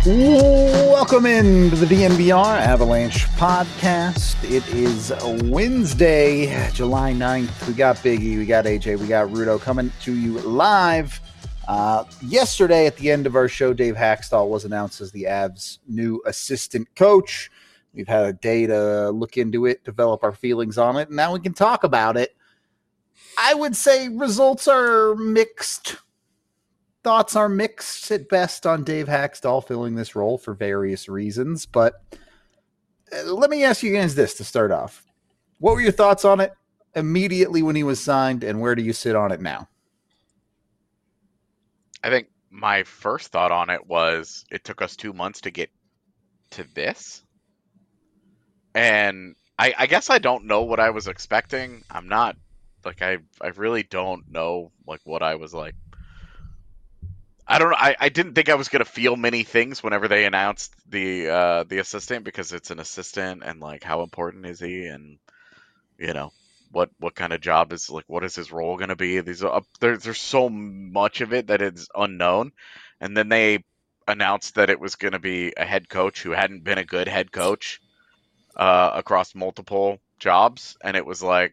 Welcome into the DNVR Avalanche podcast. It is Wednesday, July 9th. We got Biggie, we got AJ, we got Rudo coming to you live. Yesterday at the end of our show, Dave Haxtell was announced as the Avs' new assistant coach. We've had a day to look into it, develop our feelings on it, and now we can talk about it. I would say results are mixed. Thoughts are mixed at best on Dave Haxtell filling this role for various reasons, but let me ask you guys this to start off. What were your thoughts on it immediately when he was signed, and where do you sit on it now? I think my first thought on it was it took us 2 months to get to this. And I guess I don't know what I was expecting. I'm not, like, I really don't know, like, what I was like. I don't know. I didn't think I was going to feel many things whenever they announced the assistant, because it's an assistant, and, like, how important is he, and, you know, what kind of job is, like, what is his role going to be? There's so much of it that is unknown. And then they announced that it was going to be a head coach who hadn't been a good head coach across multiple jobs, and it was like,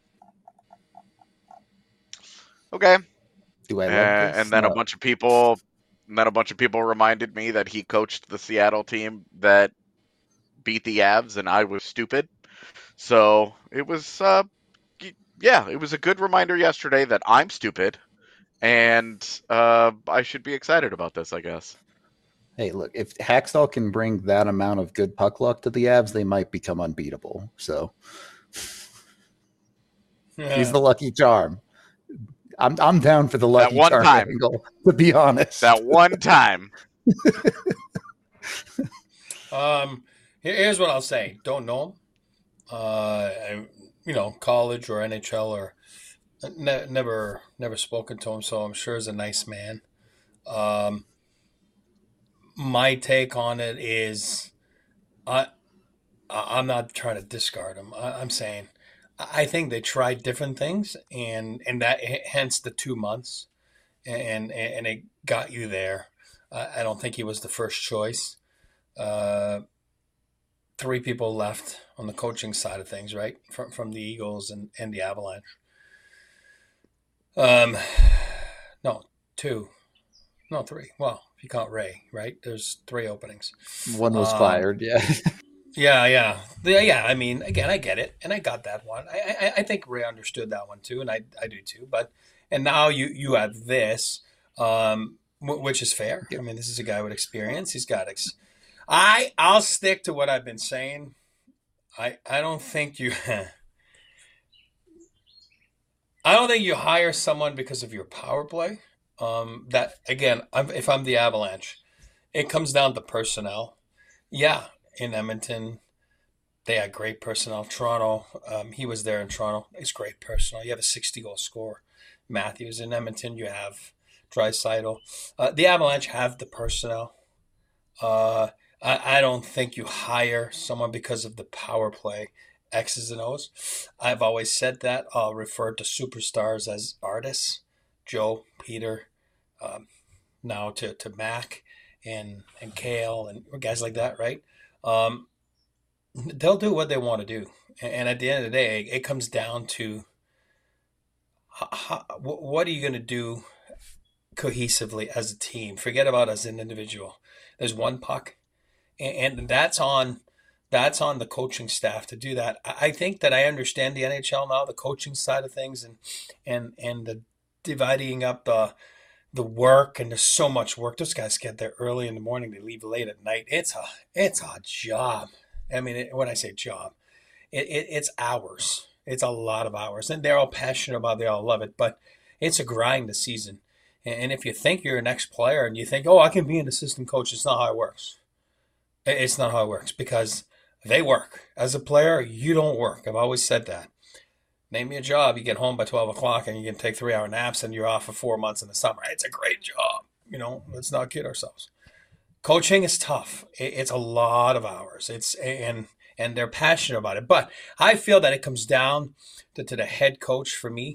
okay. Do I love this? And then a bunch of people reminded me that he coached the Seattle team that beat the Avs, and I was stupid. So it was, it was a good reminder yesterday that I'm stupid, and I should be excited about this, I guess. Hey, look, if Haxtell can bring that amount of good puck luck to the Avs, they might become unbeatable. So he's the lucky charm. I'm down for the lucky charm angle, to be honest. That one time. Here's what I'll say. Don't know him. College or NHL or never spoken to him, so I'm sure he's a nice man. My take on it is, I'm not trying to discard him. I'm saying, I think they tried different things, and that hence the 2 months, and it got you there. I don't think he was the first choice. 3 people left on the coaching side of things, right, from the Eagles and the Avalanche. No, 2, no 3. Well, if you count Ray, right? There's 3 openings. One was fired, yeah. Yeah. I mean, again, I get it, and I got that one. I think Ray understood that one too, and I do too. And now you have this, which is fair. I mean, this is a guy with experience. He's got. I'll stick to what I've been saying. I don't think you. I don't think you hire someone because of your power play. That again, if I'm the Avalanche, it comes down to personnel. Yeah. In Edmonton, they had great personnel. Toronto, he was there in Toronto. It's great personnel. You have a 60-goal scorer. Matthews. In Edmonton, you have Draisaitl. The Avalanche have the personnel. I don't think you hire someone because of the power play, X's and O's. I've always said that. I'll refer to superstars as artists. Joe, Peter, now to Mac and Kale and guys like that, right? They'll do what they want to do. And at the end of the day, it comes down to what are you going to do cohesively as a team? Forget about as an individual. There's one puck, and that's on the coaching staff to do that. I think that I understand the NHL now, the coaching side of things, and the dividing up the work, and there's so much work. Those guys get there early in the morning, they leave late at night. It's a job. I mean, when I say job, it's hours. It's a lot of hours, and they're all passionate about it. They all love it, but it's a grind this season. And if you think you're an ex-player and you think, oh, I can be an assistant coach, it's not how it works. It's not how it works, because they work. As a player, you don't work. I've always said that. Name me a job. You get home by 12 o'clock and you can take 3-hour naps and you're off for 4 months in the summer. It's a great job. Let's not kid ourselves. Coaching is tough. It's a lot of hours. And they're passionate about it. But I feel that it comes down to the head coach for me.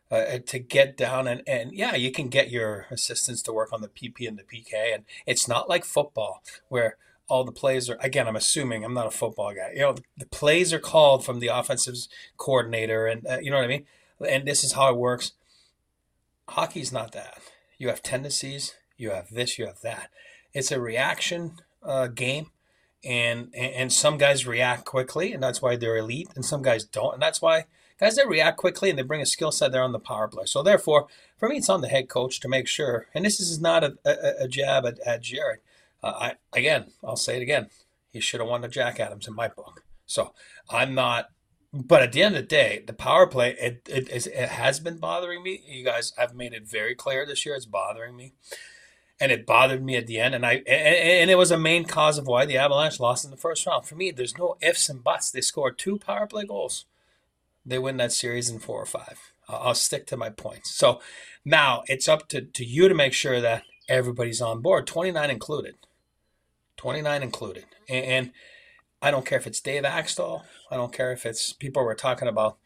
to get down and yeah, you can get your assistants to work on the PP and the PK, and it's not like football where all the plays are, again, I'm assuming, I'm not a football guy, the plays are called from the offensive coordinator, and you know what I mean, and this is how it works. Hockey's not that. You have tendencies, you have this, you have that. It's a reaction game, and some guys react quickly, and that's why they're elite, and some guys don't, and that's why guys that react quickly and they bring a skill set, they're on the power play. So therefore, for me, it's on the head coach to make sure. And this is not a jab at Jared. I'll say it again. He should have won the Jack Adams in my book. So I'm not. But at the end of the day, the power play it has been bothering me. You guys have made it very clear this year. It's bothering me, and it bothered me at the end. And it was a main cause of why the Avalanche lost in the first round. For me, there's no ifs and buts. They scored 2 power play goals. They win that series in 4 or 5. I'll stick to my points. So now it's up to you to make sure that everybody's on board, 29 included. 29 included. And I don't care if it's Dave Axtell. I don't care if it's people were talking about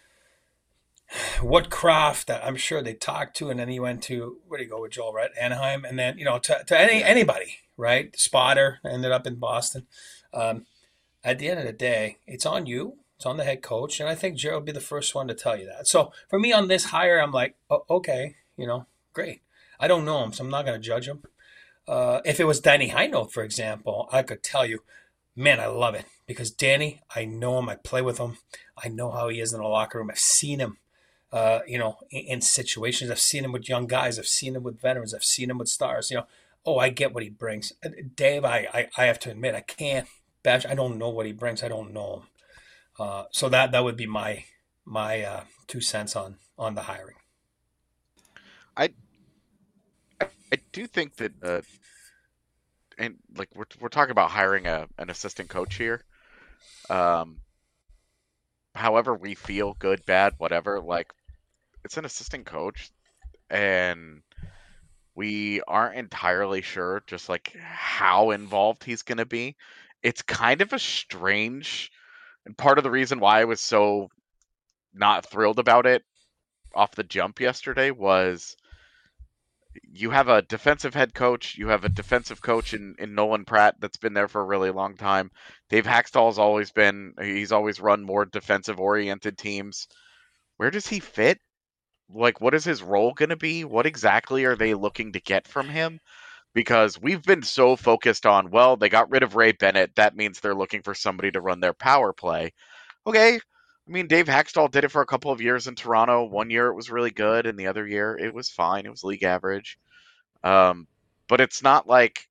what Kraft that I'm sure they talked to, and then he went to, where did he go with Joel, right? Anaheim. And then, to anybody, right? Spotter ended up in Boston. At the end of the day, it's on you. It's on the head coach. And I think Jared will be the first one to tell you that. So for me on this hire, I'm like, oh, okay, great. I don't know him, so I'm not going to judge him. If it was Danny Heinold, for example, I could tell you, man, I love it. Because Danny, I know him. I play with him. I know how he is in the locker room. I've seen him, in situations. I've seen him with young guys. I've seen him with veterans. I've seen him with stars. I get what he brings. Dave, I have to admit, I can't bash. I don't know what he brings. I don't know him. So that would be my 2 cents on the hiring. I do think that, and like we're talking about hiring an assistant coach here. However we feel, good, bad, whatever. Like, it's an assistant coach, and we aren't entirely sure just like how involved he's going to be. It's kind of a strange. And part of the reason why I was so not thrilled about it off the jump yesterday was you have a defensive head coach, you have a defensive coach in Nolan Pratt that's been there for a really long time. Dave Haxtell's he's always run more defensive-oriented teams. Where does he fit? Like, what is his role going to be? What exactly are they looking to get from him? Because we've been so focused on, well, they got rid of Ray Bennett. That means they're looking for somebody to run their power play. Okay. I mean, Dave Haxtell did it for a couple of years in Toronto. One year it was really good, and the other year it was fine. It was league average. But it's not like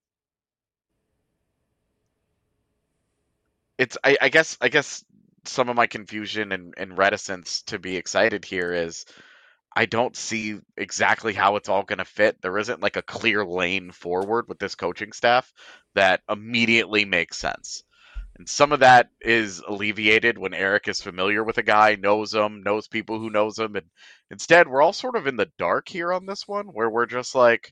I guess some of my confusion and reticence to be excited here is I don't see exactly how it's all going to fit. There isn't like a clear lane forward with this coaching staff that immediately makes sense. And some of that is alleviated when Eric is familiar with a guy, knows him, knows people who knows him. And instead, we're all sort of in the dark here on this one, where we're just like,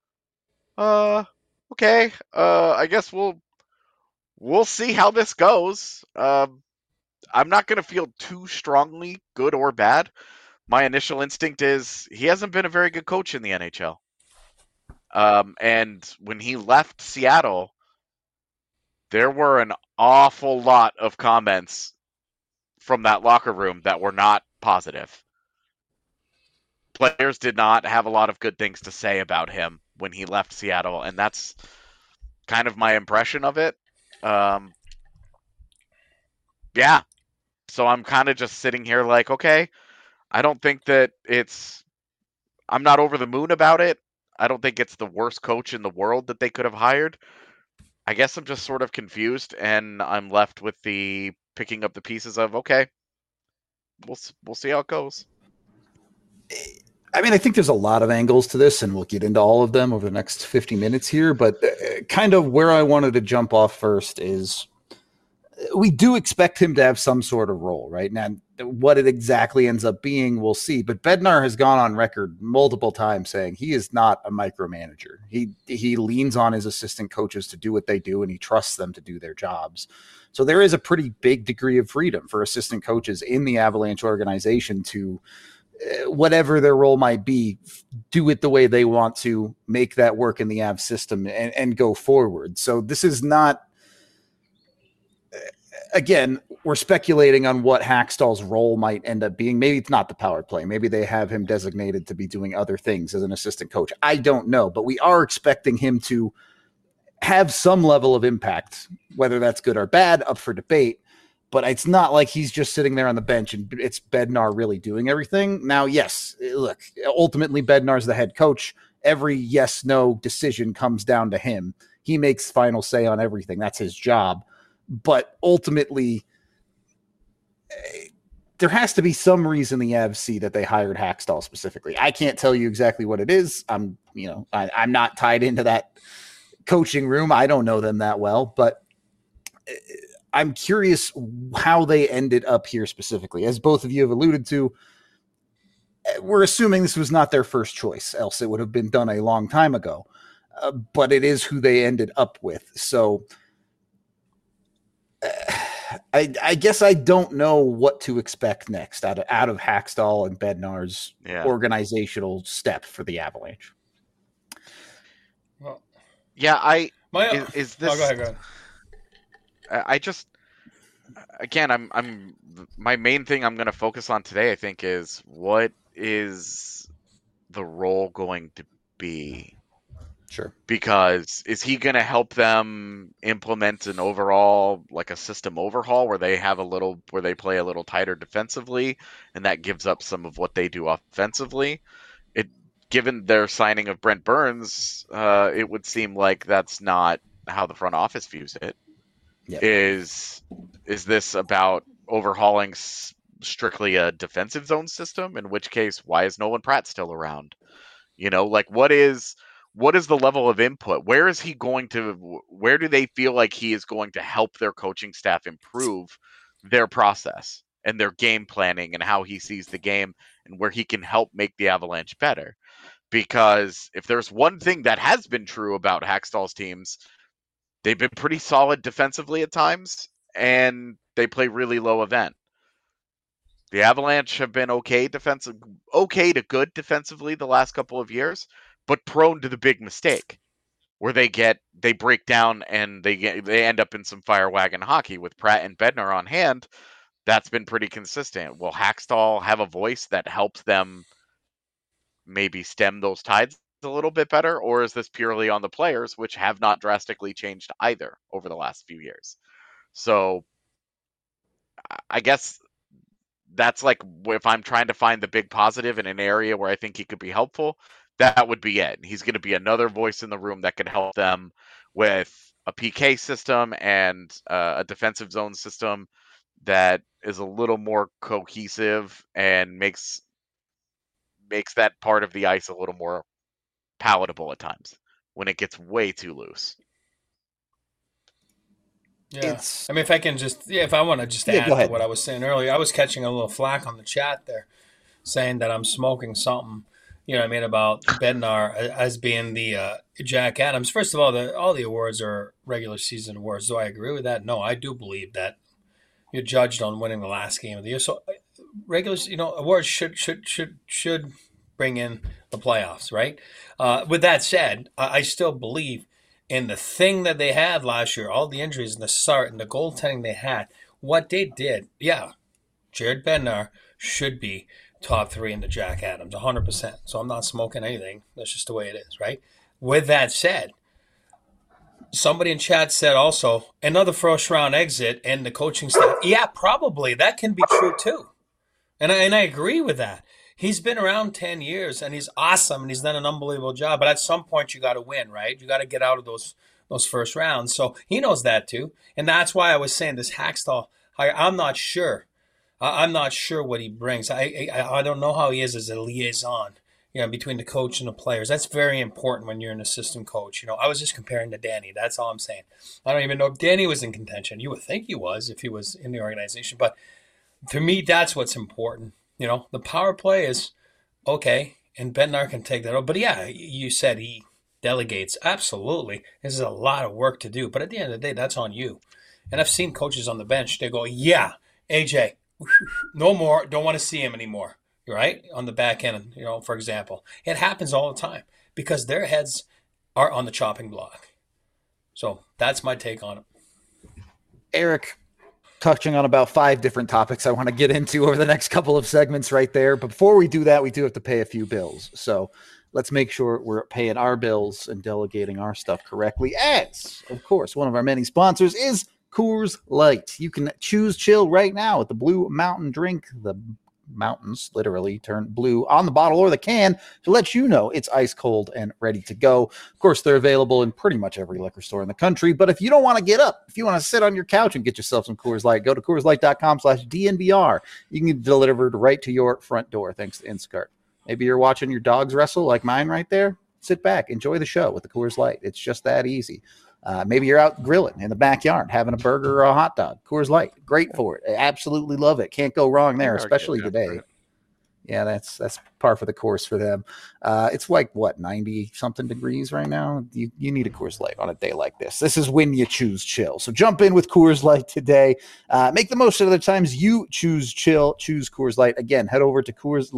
okay, I guess we'll see how this goes. I'm not going to feel too strongly, good or bad. My initial instinct is he hasn't been a very good coach in the NHL. And when he left Seattle, there were an awful lot of comments from that locker room that were not positive. Players did not have a lot of good things to say about him when he left Seattle, and that's kind of my impression of it. Yeah. So I'm kind of just sitting here like, okay, I don't think that I'm not over the moon about it. I don't think it's the worst coach in the world that they could have hired. I guess I'm just sort of confused, and I'm left with the picking up the pieces of, okay, we'll see how it goes. I mean, I think there's a lot of angles to this, and we'll get into all of them over the next 50 minutes here. But kind of where I wanted to jump off first is we do expect him to have some sort of role, right? Now, what it exactly ends up being, we'll see. But Bednar has gone on record multiple times saying he is not a micromanager. He leans on his assistant coaches to do what they do, and he trusts them to do their jobs. So there is a pretty big degree of freedom for assistant coaches in the Avalanche organization to whatever their role might be, do it the way they want to, make that work in the Avs system and go forward. So this is not, again, we're speculating on what Hackstall's role might end up being. Maybe it's not the power play. Maybe they have him designated to be doing other things as an assistant coach. I don't know, but we are expecting him to have some level of impact, whether that's good or bad, up for debate. But it's not like he's just sitting there on the bench and it's Bednar really doing everything. Now, yes, look, ultimately Bednar's the head coach. Every yes-no decision comes down to him. He makes final say on everything. That's his job. But ultimately, there has to be some reason the Avs see that they hired Hackstall specifically. I can't tell you exactly what it is. I'm not tied into that coaching room. I don't know them that well, but I'm curious how they ended up here specifically. As both of you have alluded to, we're assuming this was not their first choice, else it would have been done a long time ago. But it is who they ended up with. So I guess I don't know what to expect next out of Hackstall and Bednar's organizational step for the Avalanche. Well, yeah, is this? Oh, go ahead. I just, again, I'm my main thing I'm going to focus on today, I think, is what is the role going to be? Sure. Because is he going to help them implement an overall, like a system overhaul where they play a little tighter defensively, and that gives up some of what they do offensively? Given their signing of Brent Burns, it would seem like that's not how the front office views it. Yep. Is this about overhauling strictly a defensive zone system? In which case, why is Nolan Pratt still around? What is the level of input? Where do they feel like he is going to help their coaching staff improve their process and their game planning and how he sees the game and where he can help make the Avalanche better? Because if there's one thing that has been true about Hackstall's teams, they've been pretty solid defensively at times, and they play really low event. The Avalanche have been okay to good defensively the last couple of years, but prone to the big mistake where they break down and they end up in some fire wagon hockey with Pratt and Bednar on hand. That's been pretty consistent. Will Hackstall have a voice that helps them maybe stem those tides a little bit better, or is this purely on the players, which have not drastically changed either over the last few years? So I guess that's like, if I'm trying to find the big positive in an area where I think he could be helpful, that would be it. He's going to be another voice in the room that can help them with a PK system and a defensive zone system that is a little more cohesive and makes that part of the ice a little more palatable at times when it gets way too loose. Yeah. I mean, if I want to just add to what I was saying earlier, I was catching a little flack on the chat there saying that I'm smoking something, about Bednar as being the Jack Adams. First of all the awards are regular season awards. Do I agree with that? No, I do believe that you're judged on winning the last game of the year. So regular, awards should bring in the playoffs, right? With that said, I still believe in the thing that they had last year, all the injuries and the start and the goaltending they had, what they did. Yeah, Jared Bednar should be top 3 in the Jack Adams, 100%. So I'm not smoking anything. That's just the way it is, right? With that said, somebody in chat said also, another first-round exit and the coaching staff. Yeah, probably. That can be true too. And I agree with that. He's been around 10 years, and he's awesome, and he's done an unbelievable job. But at some point, you got to win, right? You got to get out of those first rounds. So he knows that too. And that's why I was saying this Hackstall hire, I'm not sure. I'm not sure what he brings. I don't know how he is as a liaison, between the coach and the players. That's very important when you're an assistant coach. I was just comparing to Danny. That's all I'm saying. I don't even know if Danny was in contention. You would think he was if he was in the organization. But to me, that's what's important. The power play is okay, and Bednar can take that over. But yeah, you said he delegates. Absolutely. This is a lot of work to do. But at the end of the day, that's on you. And I've seen coaches on the bench, they go, yeah, AJ, no more. Don't want to see him anymore. right? On the back end, for example. It happens all the time because their heads are on the chopping block. So that's my take on it. Eric, touching on about 5 different topics I want to get into over the next couple of segments right there. But before we do that, we do have to pay a few bills. So let's make sure we're paying our bills and delegating our stuff correctly. As, of course, one of our many sponsors is Coors Light. You can choose chill right now with the Blue Mountain drink. The mountains literally turn blue on the bottle or the can to let you know it's ice cold and ready to go. Of course, they're available in pretty much every liquor store in the country, but if you don't want to get up, if you want to sit on your couch and get yourself some Coors Light, go to CoorsLight.com/DNVR. You can get it delivered right to your front door thanks to Instacart. Maybe you're watching your dogs wrestle like mine right there. Sit back, enjoy the show with the Coors Light. It's just that easy. Maybe you're out grilling in the backyard, having a burger or a hot dog. Coors Light, great for it. I absolutely love it. Can't go wrong there, especially today. Yeah, that's par for the course for them. It's like, 90-something degrees right now? You need a Coors Light on a day like this. This is when you choose chill. So jump in with Coors Light today. Make the most of the times you choose chill. Choose Coors Light. Again, head over to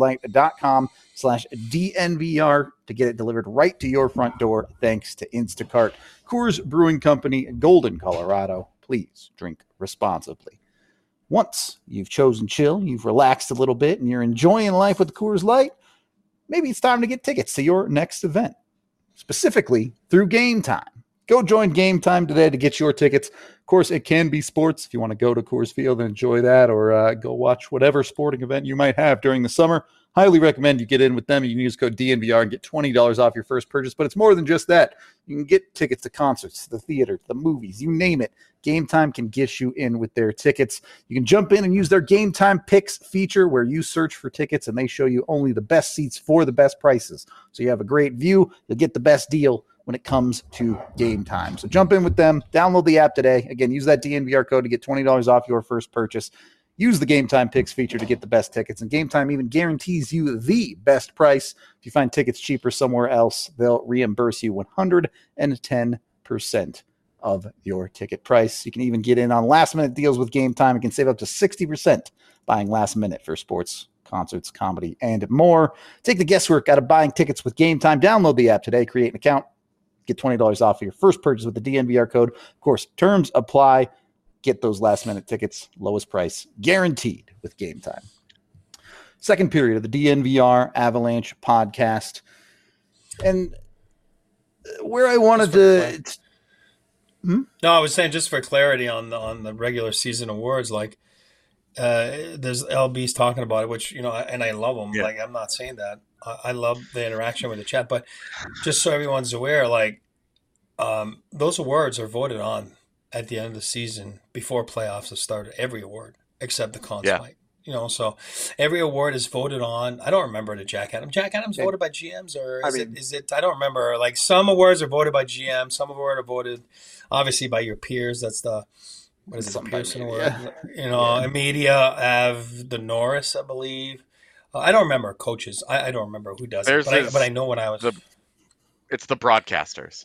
CoorsLight.com/DNVR to get it delivered right to your front door thanks to Instacart. Coors Brewing Company, Golden, Colorado. Please drink responsibly. Once you've chosen chill, you've relaxed a little bit, and you're enjoying life with Coors Light, maybe it's time to get tickets to your next event, specifically through Game Time. Go join Game Time today to get your tickets. Of course, it can be sports if you want to go to Coors Field and enjoy that, or go watch whatever sporting event you might have during the summer. Highly recommend you get in with them. You can use code DNVR and get $20 off your first purchase, but it's more than just that. You can get tickets to concerts, the theater, the movies, you name it. Game Time can get you in with their tickets. You can jump in and use their Game Time Picks feature where you search for tickets and they show you only the best seats for the best prices. So you have a great view. You'll get the best deal when it comes to Game Time. So jump in with them. Download the app today. Again, use that DNVR code to get $20 off your first purchase. Use the Game Time Picks feature to get the best tickets. And Game Time even guarantees you the best price. If you find tickets cheaper somewhere else, they'll reimburse you 110% of your ticket price. You can even get in on last-minute deals with Game Time. You can save up to 60% buying last minute for sports, concerts, comedy, and more. Take the guesswork out of buying tickets with Game Time. Download the app today. Create an account. Get $20 off of your first purchase with the DNVR code. Of course, terms apply. Get those last-minute tickets, lowest price, guaranteed with Game Time. Second period of the DNVR Avalanche podcast. And where I wanted to... No, I was saying just for clarity on the regular season awards, like there's LB's talking about it, which, and I love them. Yeah. Like, I'm not saying that. I love the interaction with the chat, but just so everyone's aware, like those awards are voted on at the end of the season before playoffs have started. Every award except the Conn Smythe. So every award is voted on. I don't remember the Jack Adams. Jack Adams voted by GMs, or is it? I don't remember. Like, some awards are voted by GM, some awards are voted obviously by your peers. That's the the Pearson Award. Yeah. Media have the Norris, I believe. I don't remember coaches. I don't remember who does it, but I know when I was. It's the broadcasters.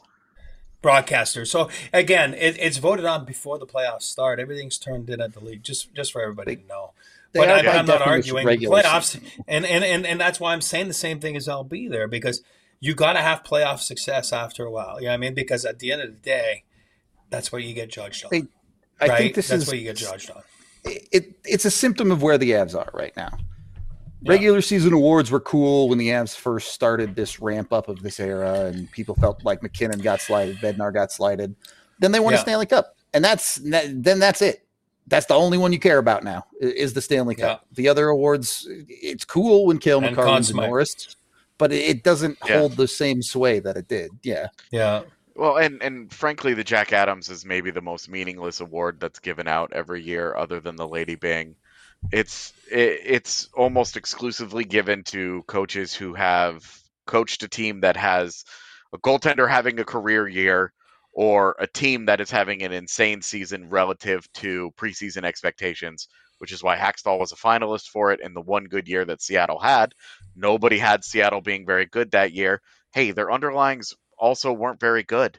So again, it's voted on before the playoffs start. Everything's turned in at the league, just for everybody to know. But I'm not arguing playoffs, and that's why I'm saying the same thing as LB there, because you got to have playoff success after a while. You know what I mean? Because at the end of the day, that's what you get judged on. I think that's what you get judged on. It's a symptom of where the Avs are right now. Regular season awards were cool when the Avs first started this ramp up of this era, and people felt like McKinnon got slighted, Bednar got slighted. Then they won a Stanley Cup, and that's it. That's the only one you care about now is the Stanley Cup. The other awards, it's cool when Cale McCarr and Norris, but it doesn't hold the same sway that it did. Yeah. Well, and frankly, the Jack Adams is maybe the most meaningless award that's given out every year, other than the Lady Byng. It's almost exclusively given to coaches who have coached a team that has a goaltender having a career year, or a team that is having an insane season relative to preseason expectations, which is why Hackstall was a finalist for it in the one good year that Seattle had. Nobody had Seattle being very good that year. Hey, their underlyings also weren't very good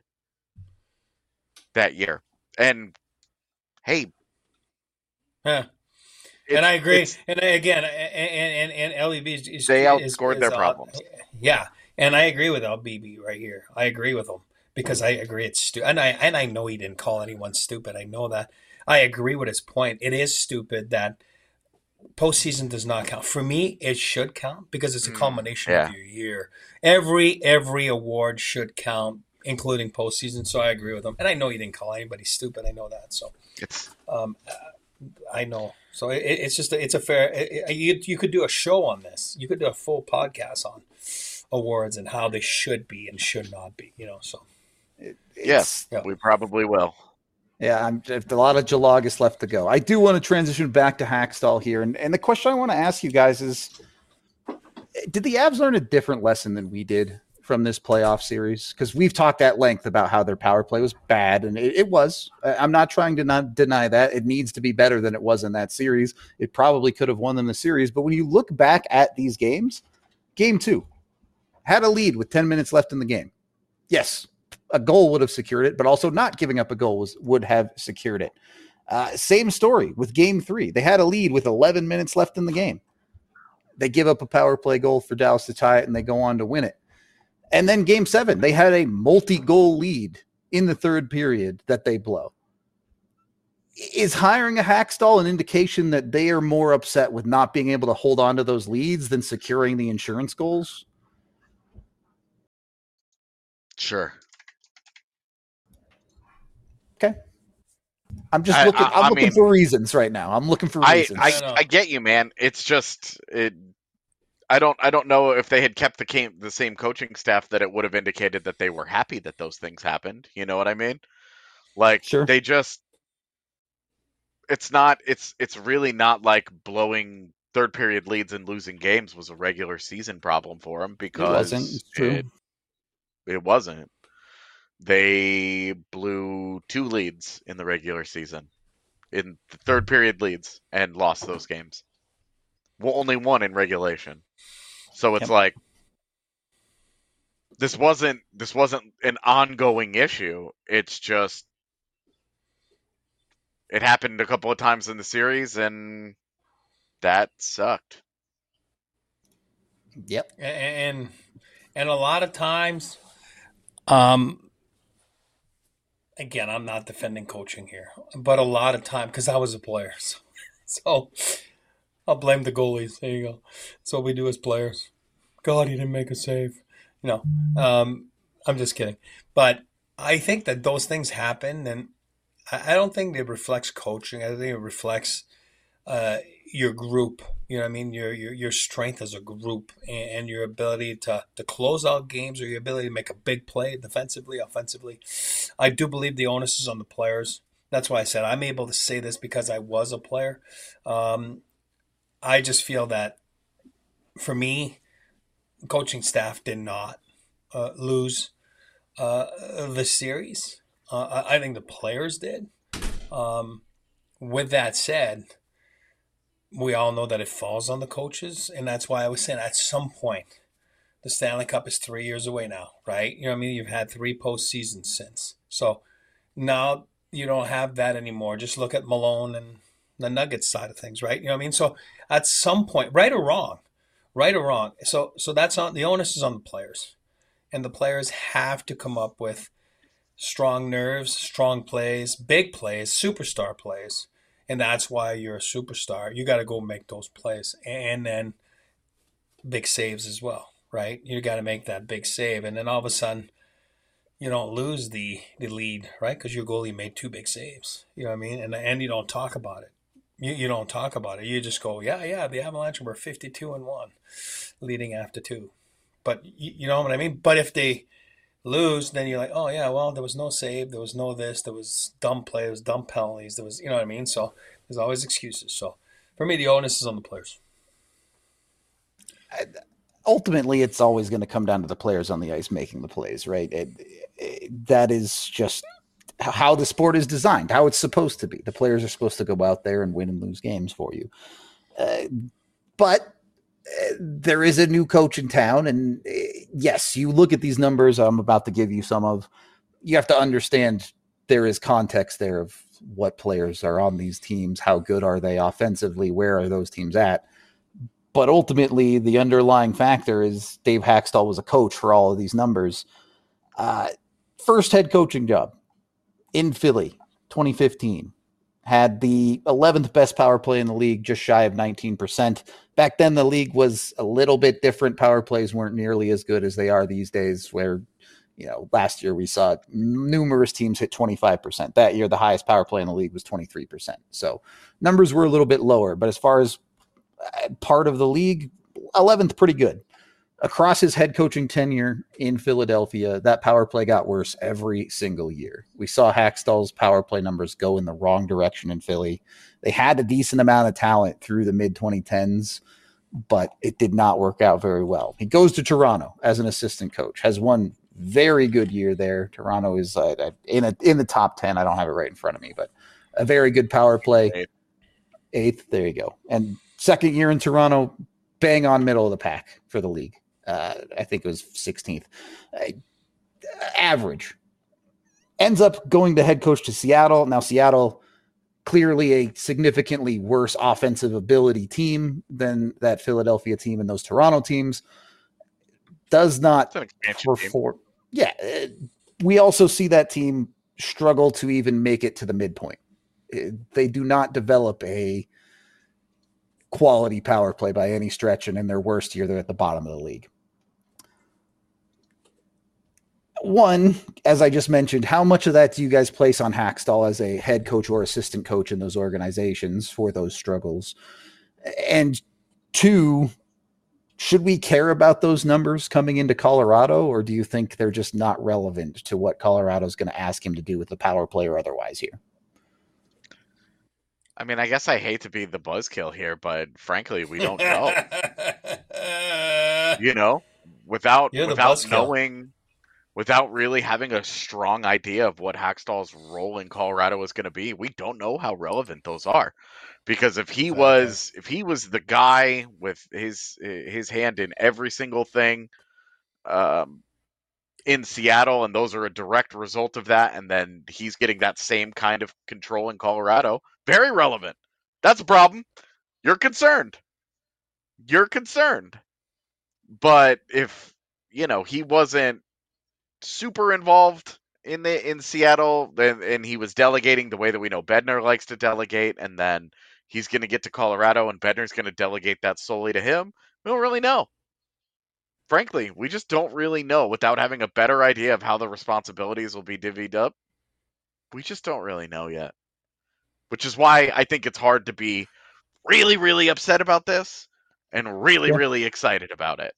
that year. And hey. Yeah. And I agree. And again, and LEB they outscored their problems. Yeah, and I agree with LBB right here. I agree with him because I agree it's stupid. And I know he didn't call anyone stupid. I know that. I agree with his point. It is stupid that postseason does not count. For me, it should count because it's a culmination of your year. Every award should count, including postseason. So I agree with him. And I know he didn't call anybody stupid. I know that. So it's I know. So it's just it's a fair. You could do a show on this. You could do a full podcast on awards and how they should be and should not be. So yes, we probably will. Yeah, a lot of Jalagas left to go. I do want to transition back to Hackstall here, and the question I want to ask you guys is: did the Avs learn a different lesson than we did from this playoff series? Because we've talked at length about how their power play was bad, and it was. I'm not trying to not deny that. It needs to be better than it was in that series. It probably could have won them the series, but when you look back at these games, Game 2 had a lead with 10 minutes left in the game. Yes, a goal would have secured it, but also not giving up a goal would have secured it. Same story with Game 3. They had a lead with 11 minutes left in the game. They give up a power play goal for Dallas to tie it, and they go on to win it. And then Game 7, they had a multi-goal lead in the third period that they blow. Is hiring a Hackstall an indication that they are more upset with not being able to hold on to those leads than securing the insurance goals? Sure. Okay. I'm just looking. I'm looking for reasons right now. I'm looking for reasons. I get you, man. It's just I don't know if they had kept the same coaching staff that it would have indicated that they were happy that those things happened. You know what I mean? Like sure. They just it's really not like blowing third period leads and losing games was a regular season problem for them because it wasn't. It's true. It wasn't. They blew 2 leads in the regular season, in the third period leads, and lost those games. Well, only 1 in regulation. So it's like this wasn't an ongoing issue. It's just it happened a couple of times in the series, and that sucked. Yep. And a lot of times, again, I'm not defending coaching here, but a lot of time, because I was a player, so I'll blame the goalies. There you go. That's what we do as players. God, he didn't make a save. I'm just kidding. But I think that those things happen, and I don't think it reflects coaching. I think it reflects your group. You know what I mean? Your strength as a group and your ability to close out games, or your ability to make a big play defensively, offensively. I do believe the onus is on the players. That's why I said I'm able to say this because I was a player. I just feel that for me, coaching staff did not lose the series. I think the players did. With that said, we all know that it falls on the coaches, and that's why I was saying at some point, the Stanley Cup is 3 years away now, right? You know what I mean? You've had 3 postseasons since. So now you don't have that anymore. Just look at Malone and the Nuggets side of things, right? You know what I mean? So at some point, right or wrong. So that's on the onus is on the players. And the players have to come up with strong nerves, strong plays, big plays, superstar plays. And that's why you're a superstar. You got to go make those plays. And then big saves as well, right? You got to make that big save. And then all of a sudden, you don't lose the lead, right? Because your goalie made 2 big saves. You know what I mean? And you don't talk about it. You don't talk about it. You just go, yeah, the Avalanche were 52-1 leading after 2. But you know what I mean? But if they lose, then you're like, oh yeah, well, there was no save, there was no this, there was dumb play, there was dumb penalties, there was, you know what I mean? So there's always excuses. So for me, the onus is on the players. Ultimately, it's always going to come down to the players on the ice making the plays, right? That is just how the sport is designed, how it's supposed to be. The players are supposed to go out there and win and lose games for you. But there is a new coach in town, and yes, you look at these numbers I'm about to give you some of. You have to understand there is context there of what players are on these teams, how good are they offensively, where are those teams at. But ultimately, the underlying factor is Dave Haxtell was a coach for all of these numbers. First head coaching job in Philly, 2015. Had the 11th best power play in the league, just shy of 19%. Back then, the league was a little bit different. Power plays weren't nearly as good as they are these days, where, last year we saw numerous teams hit 25%. That year, the highest power play in the league was 23%. So numbers were a little bit lower. But as far as part of the league, 11th, pretty good. Across his head coaching tenure in Philadelphia, that power play got worse every single year. We saw Haxtell's power play numbers go in the wrong direction in Philly. They had a decent amount of talent through the mid-2010s, but it did not work out very well. He goes to Toronto as an assistant coach, has one very good year there. Toronto is in the top 10. I don't have it right in front of me, but a very good power play. Eighth, there you go. And second year in Toronto, bang on middle of the pack for the league. I think it was 16th. Average. Ends up going to head coach to Seattle. Now, Seattle, clearly a significantly worse offensive ability team than that Philadelphia team and those Toronto teams. Does not perform. Yeah. We also see that team struggle to even make it to the midpoint. They do not develop a quality power play by any stretch, and in their worst year, they're at the bottom of the league. One, as I just mentioned, how much of that do you guys place on Haxtell as a head coach or assistant coach in those organizations for those struggles? And two, should we care about those numbers coming into Colorado, or do you think they're just not relevant to what Colorado's going to ask him to do with the power play or otherwise here? I mean, I guess I hate to be the buzzkill here, but frankly, we don't know. Without knowing, without really having a strong idea of what Haxtell's role in Colorado is going to be, we don't know how relevant those are. Because if he was the guy with his hand in every single thing in Seattle, and those are a direct result of that, and then he's getting that same kind of control in Colorado, very relevant. That's a problem. You're concerned. But if, he wasn't super involved in Seattle, and he was delegating the way that we know Bednar likes to delegate, and then he's going to get to Colorado and Bednar's going to delegate that solely to him, we don't really know. Frankly, we just don't really know without having a better idea of how the responsibilities will be divvied up. We just don't really know yet. Which is why I think it's hard to be really, really upset about this and really, really excited about it.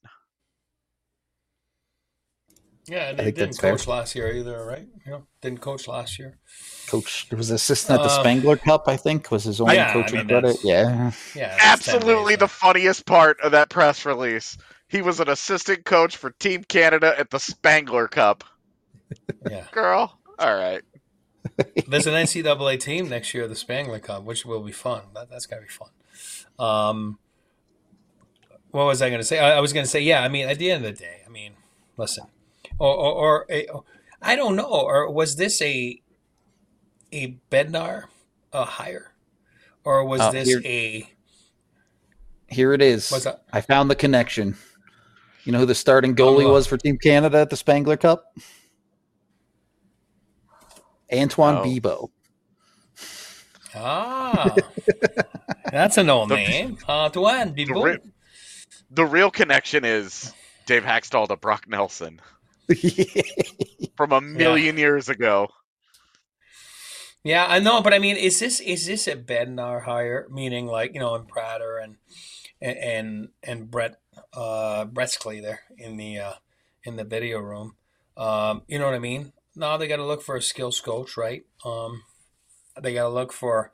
Yeah, and he didn't coach last year either, right? Didn't coach last year. Coach was assistant at the Spangler Cup, I think, was his only coaching credit. Yeah, absolutely the funniest part of that press release. He was an assistant coach for Team Canada at the Spangler Cup. Yeah, girl. All right. There's an NCAA team next year, the Spangler Cup, which will be fun. That's gotta be fun. What was I going to say? I was going to say, yeah. I mean, at the end of the day, listen. Or I don't know. Or was this a Bednar hire, or was this Here it is. I found the connection. You know who the starting goalie was for Team Canada at the Spangler Cup? Antoine Bibeau. That's an old name. Antoine Bibeau. The real connection is Dave Haxtell to Brock Nelson. From a million years ago. Yeah, I know, but is this a Bednar hire? Meaning, like, and Prater and Brett Bretzkley there in the video room. You know what I mean? No, they got to look for a skills coach, right? They got to look for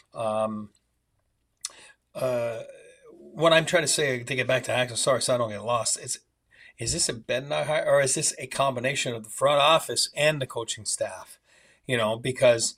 what I'm trying to say to get back to Haxtell. Sorry, so I don't get lost. Is this a Bednar hire, or is this a combination of the front office and the coaching staff? Because,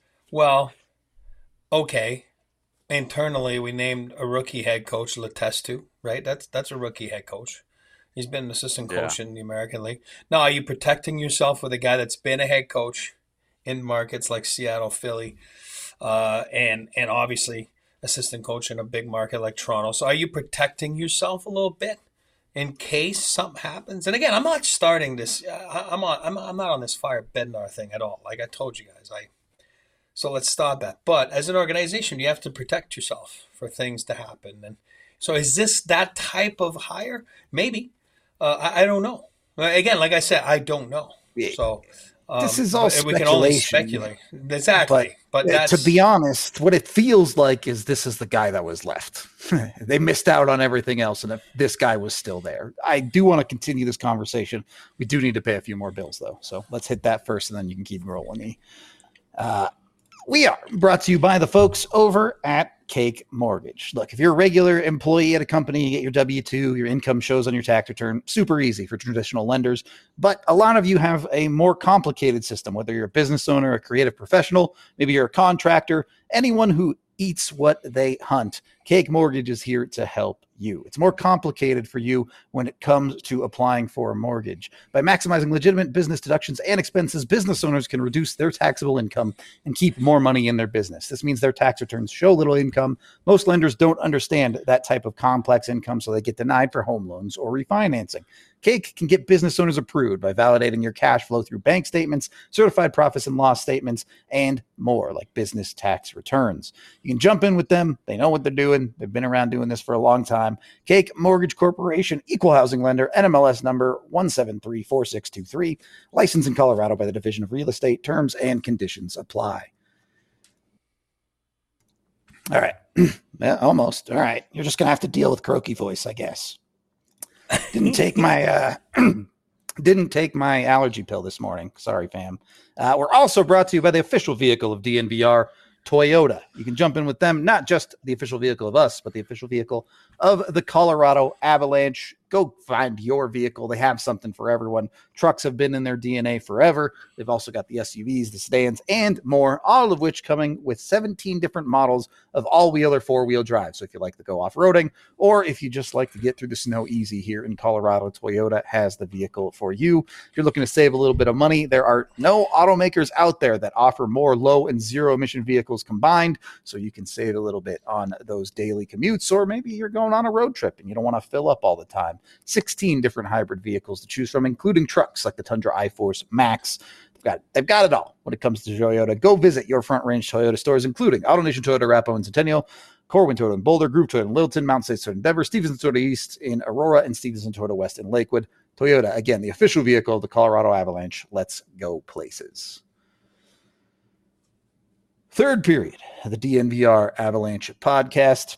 internally we named a rookie head coach Letestu, right? That's a rookie head coach. He's been an assistant coach in the American League. Now, are you protecting yourself with a guy that's been a head coach in markets like Seattle, Philly, and obviously assistant coach in a big market like Toronto. So are you protecting yourself a little bit in case something happens? And again, I'm not starting this. I'm not on this fire Bednar thing at all. Like I told you guys, so let's stop that. But as an organization, you have to protect yourself for things to happen. And so is this that type of hire? Maybe. I don't know. Again, like I said, I don't know. So this is all speculation. We can only speculate. Exactly. But to be honest, what it feels like is this is the guy that was left. They missed out on everything else, and this guy was still there. I do want to continue this conversation. We do need to pay a few more bills, though. So let's hit that first, and then you can keep rolling me. We are brought to you by the folks over at Cake Mortgage. Look, if you're a regular employee at a company, you get your W-2, your income shows on your tax return, super easy for traditional lenders. But a lot of you have a more complicated system, whether you're a business owner, a creative professional, maybe you're a contractor, anyone who eats what they hunt. Cake Mortgage is here to help you. It's more complicated for you when it comes to applying for a mortgage. By maximizing legitimate business deductions and expenses, business owners can reduce their taxable income and keep more money in their business. This means their tax returns show little income. Most lenders don't understand that type of complex income, so they get denied for home loans or refinancing. Cake can get business owners approved by validating your cash flow through bank statements, certified profits and loss statements, and more, like business tax returns. You can jump in with them. They know what they're doing. They've been around doing this for a long time. Cake Mortgage Corporation, equal housing lender, NMLS number 1734623, licensed in Colorado by the Division of Real Estate. Terms and conditions apply. All right. Yeah, almost. All right. You're just going to have to deal with croaky voice, I guess. Didn't take my allergy pill this morning. Sorry, fam. We're also brought to you by the official vehicle of DNVR, Toyota. You can jump in with them, not just the official vehicle of us, but the official vehicle of the Colorado Avalanche. Go find your vehicle. They have something for everyone. Trucks have been in their DNA forever. They've also got the SUVs, the sedans, and more, all of which coming with 17 different models of all-wheel or four-wheel drive. So if you like to go off-roading, or if you just like to get through the snow easy here in Colorado, Toyota has the vehicle for you. If you're looking to save a little bit of money, there are no automakers out there that offer more low and zero emission vehicles combined, so you can save a little bit on those daily commutes, or maybe you're going on a road trip and you don't want to fill up all the time. 16 different hybrid vehicles to choose from, including trucks like the Tundra iForce Max. They've got it all when it comes to Toyota. Go visit your Front Range Toyota stores, including AutoNation Toyota, Arapahoe and Centennial, Corwin Toyota in Boulder, Group Toyota in Littleton, Mount States Toyota in Denver, Stevenson Toyota East in Aurora, and Stevenson Toyota West in Lakewood. Toyota, again, the official vehicle of the Colorado Avalanche. Let's go places. Third period of the DNVR Avalanche podcast.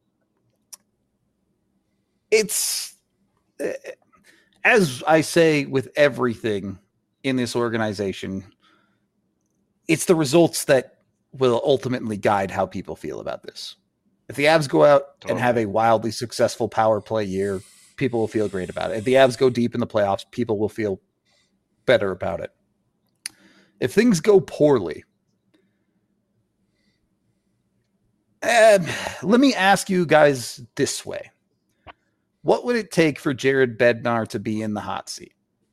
It's, as I say with everything in this organization, it's the results that will ultimately guide how people feel about this. If the Avs go out and have a wildly successful power play year, people will feel great about it. If the Avs go deep in the playoffs, people will feel better about it. If things go poorly, let me ask you guys this way. What would it take for Jared Bednar to be in the hot seat?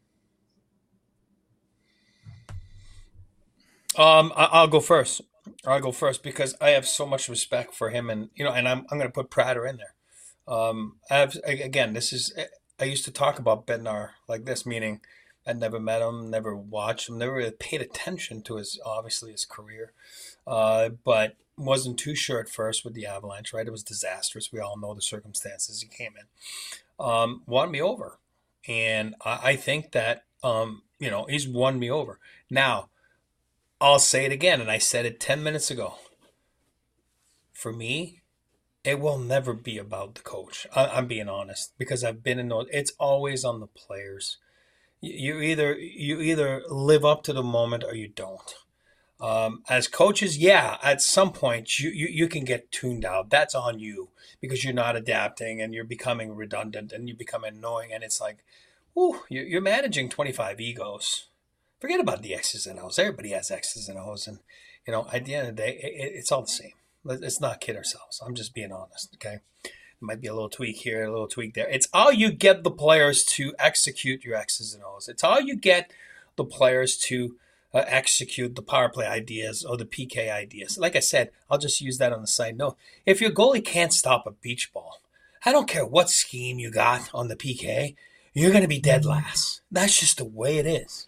I'll go first. I'll go first because I have so much respect for him, and I'm going to put Prater in there. I used to talk about Bednar like this, meaning I'd never met him, never watched him, never really paid attention to his career, but wasn't too sure at first with the Avalanche, right? It was disastrous. We all know the circumstances he came in. Won me over. And I think that, he's won me over. Now, I'll say it again, and I said it 10 minutes ago. For me, it will never be about the coach. I'm being honest, because I've been in those. It's always on the players. You either live up to the moment or you don't. As coaches, at some point you can get tuned out. That's on you because you're not adapting and you're becoming redundant and you become annoying. And it's like, you're managing 25 egos. Forget about the X's and O's. Everybody has X's and O's. And, at the end of the day, it's all the same. Let's not kid ourselves. I'm just being honest, okay? There might be a little tweak here, a little tweak there. It's how you get the players to execute your X's and O's. It's how you get the players to execute the power play ideas or the PK ideas. Like I said, I'll just use that on the side note. If your goalie can't stop a beach ball, I don't care what scheme you got on the PK, you're going to be dead last. That's just the way it is.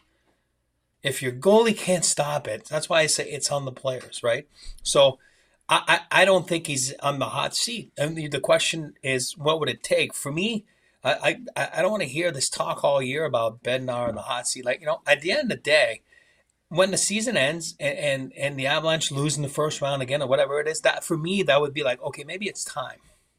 If your goalie can't stop it, that's why I say it's on the players, right? So I don't think he's on the hot seat. And the question is, what would it take? For me, I don't want to hear this talk all year about Bednar and the hot seat. Like, at the end of the day, when the season ends and the Avalanche lose in the first round again or whatever it is, that for me, that would be like, okay, maybe it's time.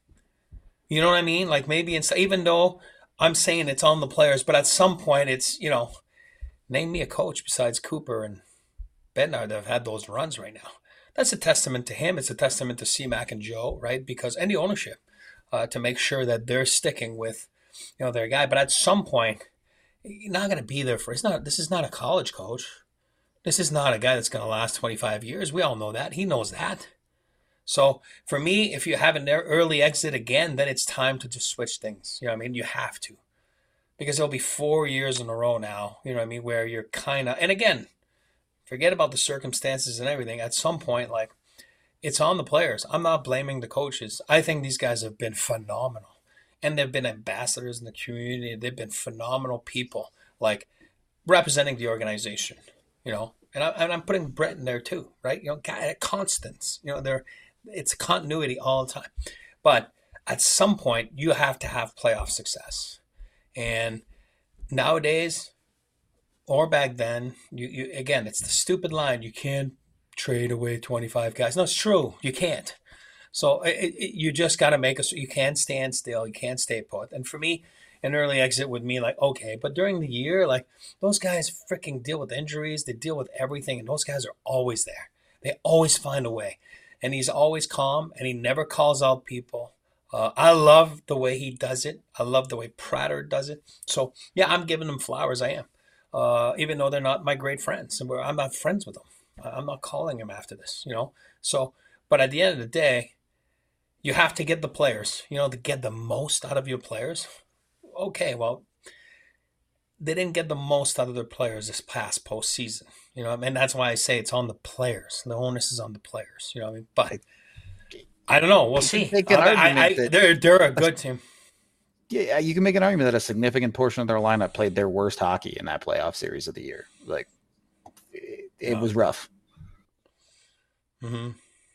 You know what I mean? Like maybe it's, even though I'm saying it's on the players, but at some point it's, name me a coach besides Cooper and Bednar that have had those runs right now. That's a testament to him. It's a testament to C-Mac and Joe, right? Because, and the ownership, to make sure that they're sticking with, their guy. But at some point, you're not going to be there for, this is not a college coach. This is not a guy that's going to last 25 years. We all know that. He knows that. So for me, if you have an early exit again, then it's time to just switch things. You know what I mean? You have to. Because it'll be 4 years in a row now, you know what I mean, where you're kind of, and again, forget about the circumstances and everything. At some point, like, it's on the players. I'm not blaming the coaches. I think these guys have been phenomenal. And they've been ambassadors in the community. They've been phenomenal people, like, representing the organization, And I'm putting Brett in there too, right? Constants. It's continuity all the time. But at some point, you have to have playoff success. And nowadays, or back then, you again, it's the stupid line. You can't trade away 25 guys. No, it's true. You can't. So you just got to make us. You can't stand still. You can't stay put. And for me, an early exit would mean like, okay, but during the year, like those guys freaking deal with injuries. They deal with everything. And those guys are always there. They always find a way. And he's always calm and he never calls out people. I love the way he does it. I love the way Prater does it. So, yeah, I'm giving them flowers. I am. Even though they're not my great friends. And I'm not friends with them. I'm not calling them after this, So, but at the end of the day, you have to get the players, to get the most out of your players. Okay, well, they didn't get the most out of their players this past postseason. And that's why I say it's on the players. The onus is on the players. But I don't know. We'll see. They're a good team. Yeah, you can make an argument that a significant portion of their lineup played their worst hockey in that playoff series of the year. Like, it was rough. Mm-hmm.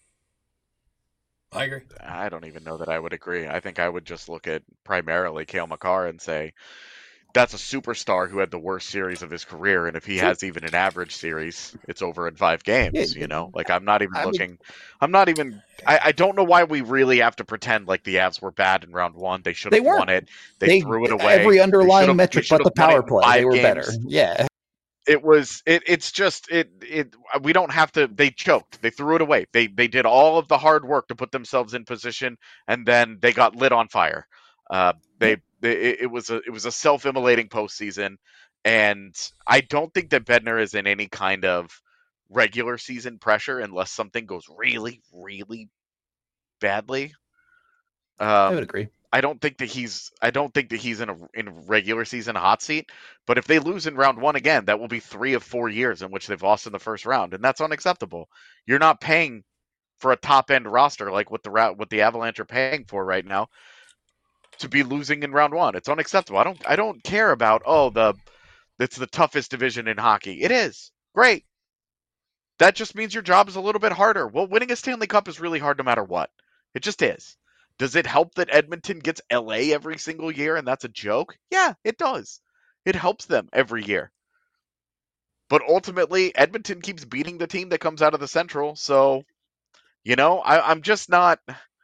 I agree. I don't even know that I would agree. I think I would just look at primarily Cale Makar and say, that's a superstar who had the worst series of his career, and if he has even an average series, it's over in 5 games. Like I'm not even looking. I don't know why we really have to pretend like the Avs were bad in round 1. They should have won it. They threw it away. Every underlying metric but the power play, they were better. Yeah. It was. It's just. We don't have to. They choked. They threw it away. They did all of the hard work to put themselves in position, and then they got lit on fire. It was a self-immolating postseason, and I don't think that Bednar is in any kind of regular season pressure unless something goes really, really badly. I would agree. I don't think that he's in a regular season hot seat. But if they lose in round 1 again, that will be 3 of 4 years in which they've lost in the first round, and that's unacceptable. You're not paying for a top end roster like what the Avalanche are paying for right now to be losing in round 1. It's unacceptable. I don't care about it's the toughest division in hockey. It is. Great. That just means your job is a little bit harder. Well, winning a Stanley Cup is really hard no matter what. It just is. Does it help that Edmonton gets LA every single year and that's a joke? Yeah, it does. It helps them every year. But ultimately, Edmonton keeps beating the team that comes out of the Central. So, I'm just not...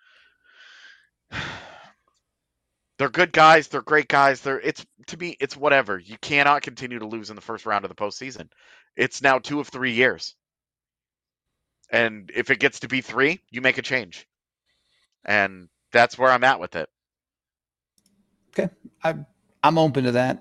They're good guys. They're great guys. To me, it's whatever. You cannot continue to lose in the first round of the postseason. It's now 2 of 3 years. And if it gets to be 3, you make a change. And that's where I'm at with it. Okay. I'm open to that.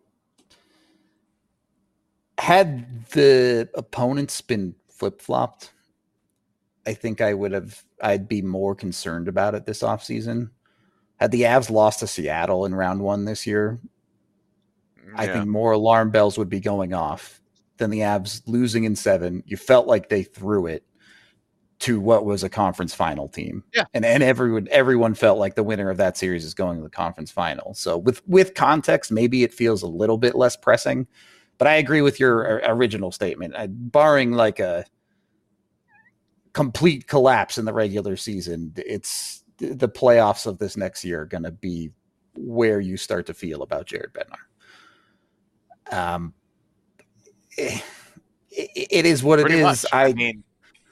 Had the opponents been flip-flopped, I think I'd be more concerned about it this offseason. Had the Avs lost to Seattle in round 1 this year, I think more alarm bells would be going off. than the Avs losing in 7. You felt like they threw it to what was a conference final team. Yeah. And everyone felt like the winner of that series is going to the conference final. So with context, maybe it feels a little bit less pressing, but I agree with your original statement. Barring like a complete collapse in the regular season, it's the playoffs of this next year are going to be where you start to feel about Jared Bednar. It is what Pretty it is. much. I mean,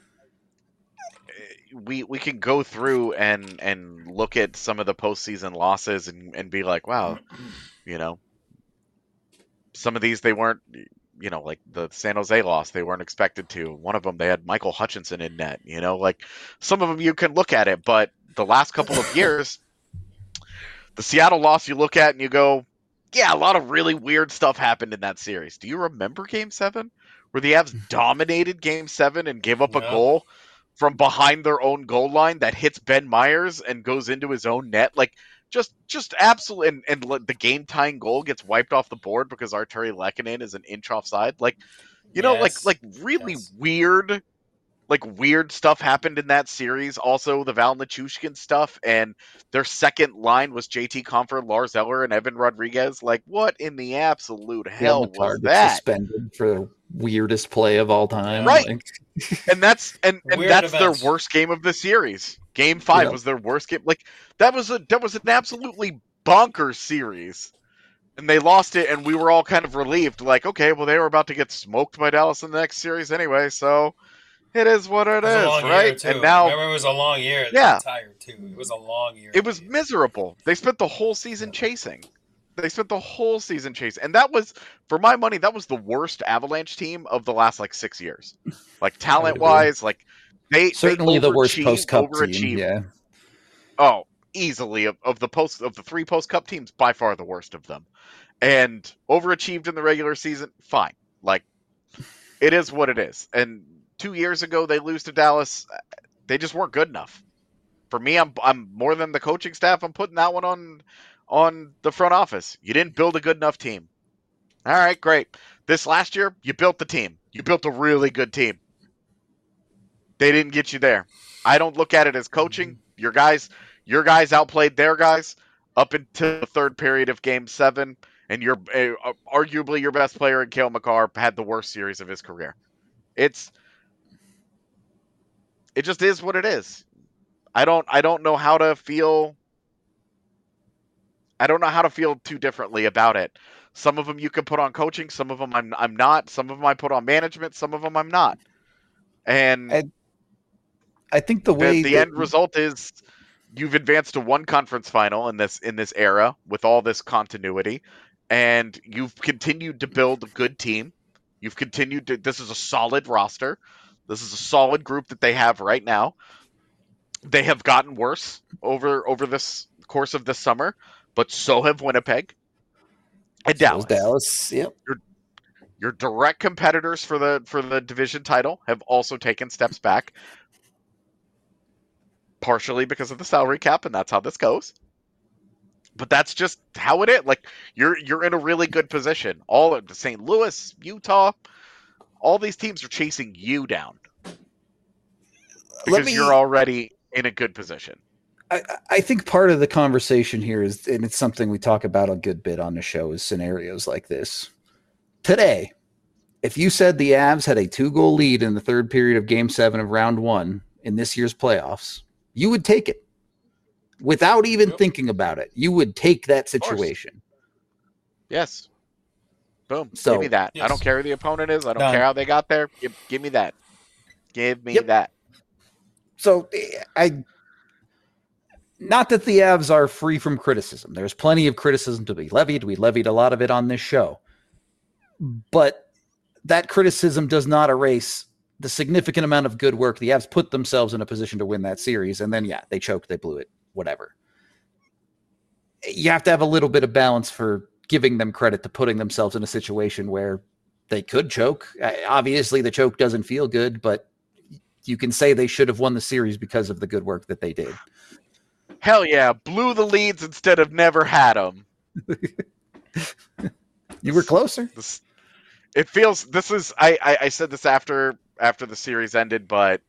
we can go through and look at some of the postseason losses and be like, wow, you know, some of these they weren't, you know, like the San Jose loss, they weren't expected to. One of them, they had Michael Hutchinson in net, you know, like some of them you can look at it, but the last couple of years, the Seattle loss you look at and you go, yeah, a lot of really weird stuff happened in that series. Do you remember Game 7? Where the Avs dominated Game 7 and gave up a goal from behind their own goal line that hits Ben Myers and goes into his own net? Like, just absolute, and the game-tying goal gets wiped off the board because Arturi Lehkonen is an inch offside. Like, you know, like really weird... Like weird stuff happened in that series. Also, the Val Nichushkin stuff, and their second line was JT Compher, Lars Eller, and Evan Rodriguez. Like, what in the absolute hell was that? Suspended for the weirdest play of all time, right? Like... and that's their worst game of the series. Game 5 was their worst game. Like that was an absolutely bonkers series. And they lost it, and we were all kind of relieved. Like, okay, well, they were about to get smoked by Dallas in the next series anyway, so. It is what it is, right? And now, remember, it was a long year. They got tired too. It was a long year. It was miserable. They spent the whole season chasing. And that was, for my money, that was the worst Avalanche team of the last like 6 years. Like talent-wise, like they certainly the worst post-cup team. Yeah. Oh, easily of the 3 post-cup teams, by far the worst of them, and overachieved in the regular season. Fine, like it is what it is, and. 2 years ago, they lose to Dallas. They just weren't good enough. For me, I'm more than the coaching staff. I'm putting that one on the front office. You didn't build a good enough team. All right, great. This last year, you built the team. You built a really good team. They didn't get you there. I don't look at it as coaching. Your guys outplayed their guys up until the third period of Game 7, and arguably your best player in Cale Makar had the worst series of his career. It just is what it is. I don't know how to feel. I don't know how to feel too differently about it. Some of them you can put on coaching. Some of them I'm not. Some of them I put on management. Some of them I'm not. And I think the end result is you've advanced to one conference final in this era with all this continuity, and you've continued to build a good team. You've continued to. This is a solid roster. This is a solid group that they have right now. They have gotten worse over this course of this summer, but so have Winnipeg and Dallas. Dallas, yep. Your direct competitors for the division title have also taken steps back, partially because of the salary cap, and that's how this goes. But that's just how it is. Like you're in a really good position. All of St. Louis, Utah. All these teams are chasing you down because you're already in a good position. I think part of the conversation here is, and it's something we talk about a good bit on the show, is scenarios like this. Today, if you said the Avs had a 2-goal lead in the third period of Game 7 of Round 1 in this year's playoffs, you would take it. Without even thinking about it, you would take that situation. Yes. Boom. So, give me that. Yes. I don't care who the opponent is. I don't care how they got there. Give me that. Give me that. So not that the Avs are free from criticism. There's plenty of criticism to be levied. We levied a lot of it on this show. But that criticism does not erase the significant amount of good work. The Avs put themselves in a position to win that series. And then, they choked, they blew it, whatever. You have to have a little bit of balance for giving them credit to putting themselves in a situation where they could choke. Obviously, the choke doesn't feel good, but you can say they should have won the series because of the good work that they did. Hell yeah, blew the leads instead of never had them. You were closer. it feels this is I said this after the series ended, but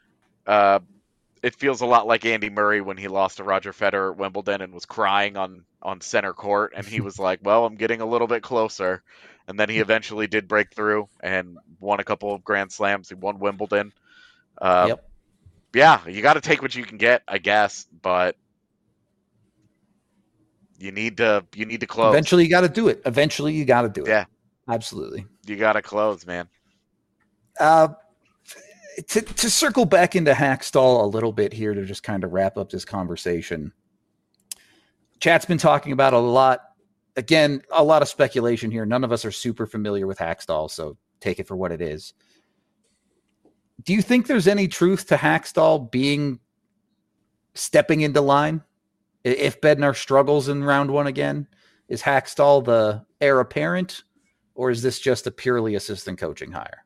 it feels a lot like Andy Murray when he lost to Roger Federer at Wimbledon and was crying on center court, and he was like, "Well, I'm getting a little bit closer," and then he eventually did break through and won a couple of Grand Slams. He won Wimbledon. Yep. Yeah, you got to take what you can get, I guess, but you need to close. Eventually, you got to do it. Eventually, you got to do it. Yeah, absolutely. You got to close, man. To circle back into Hakstol a little bit here to just kind of wrap up this conversation. Chat's been talking about a lot. Again, a lot of speculation here. None of us are super familiar with Hakstol, so take it for what it is. Do you think there's any truth to Hakstol stepping into line? If Bednar struggles in round one again, is Hakstol the heir apparent, or is this just a purely assistant coaching hire?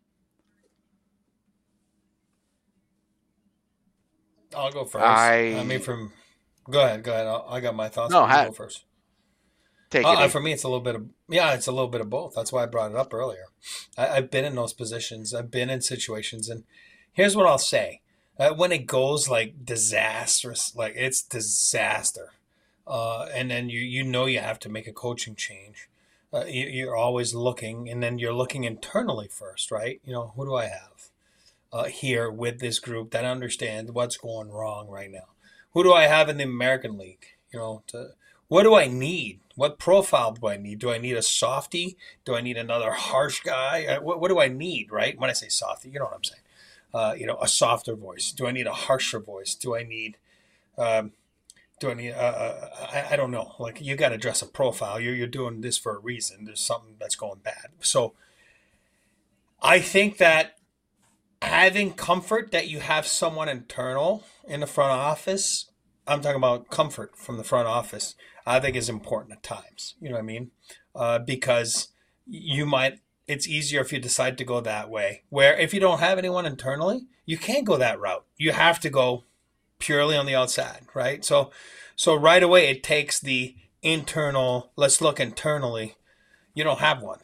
I'll go first. Go ahead. I got my thoughts. No, go first. Take it. For me, it's a little bit of both. That's why I brought it up earlier. I've been in those positions. I've been in situations, and here's what I'll say: when it goes like disastrous, like it's disaster, and then you have to make a coaching change. You're always looking, and then you're looking internally first, right? Who do I have here with this group that understands what's going wrong right now? Who do I have in the American League? What do I need? What profile do I need? Do I need a softie? Do I need another harsh guy? What do I need, right? When I say softie, you know what I'm saying. A softer voice. Do I need a harsher voice? Do I need, I don't know. Like, you got to address a profile. You're doing this for a reason. There's something that's going bad. So I think that having comfort that you have someone internal in the front office, I'm talking about comfort from the front office, I think is important at times. You know what I mean? Because it's easier if you decide to go that way, where if you don't have anyone internally, you can't go that route. You have to go purely on the outside, right? So right away it takes the internal, let's look internally. You don't have one.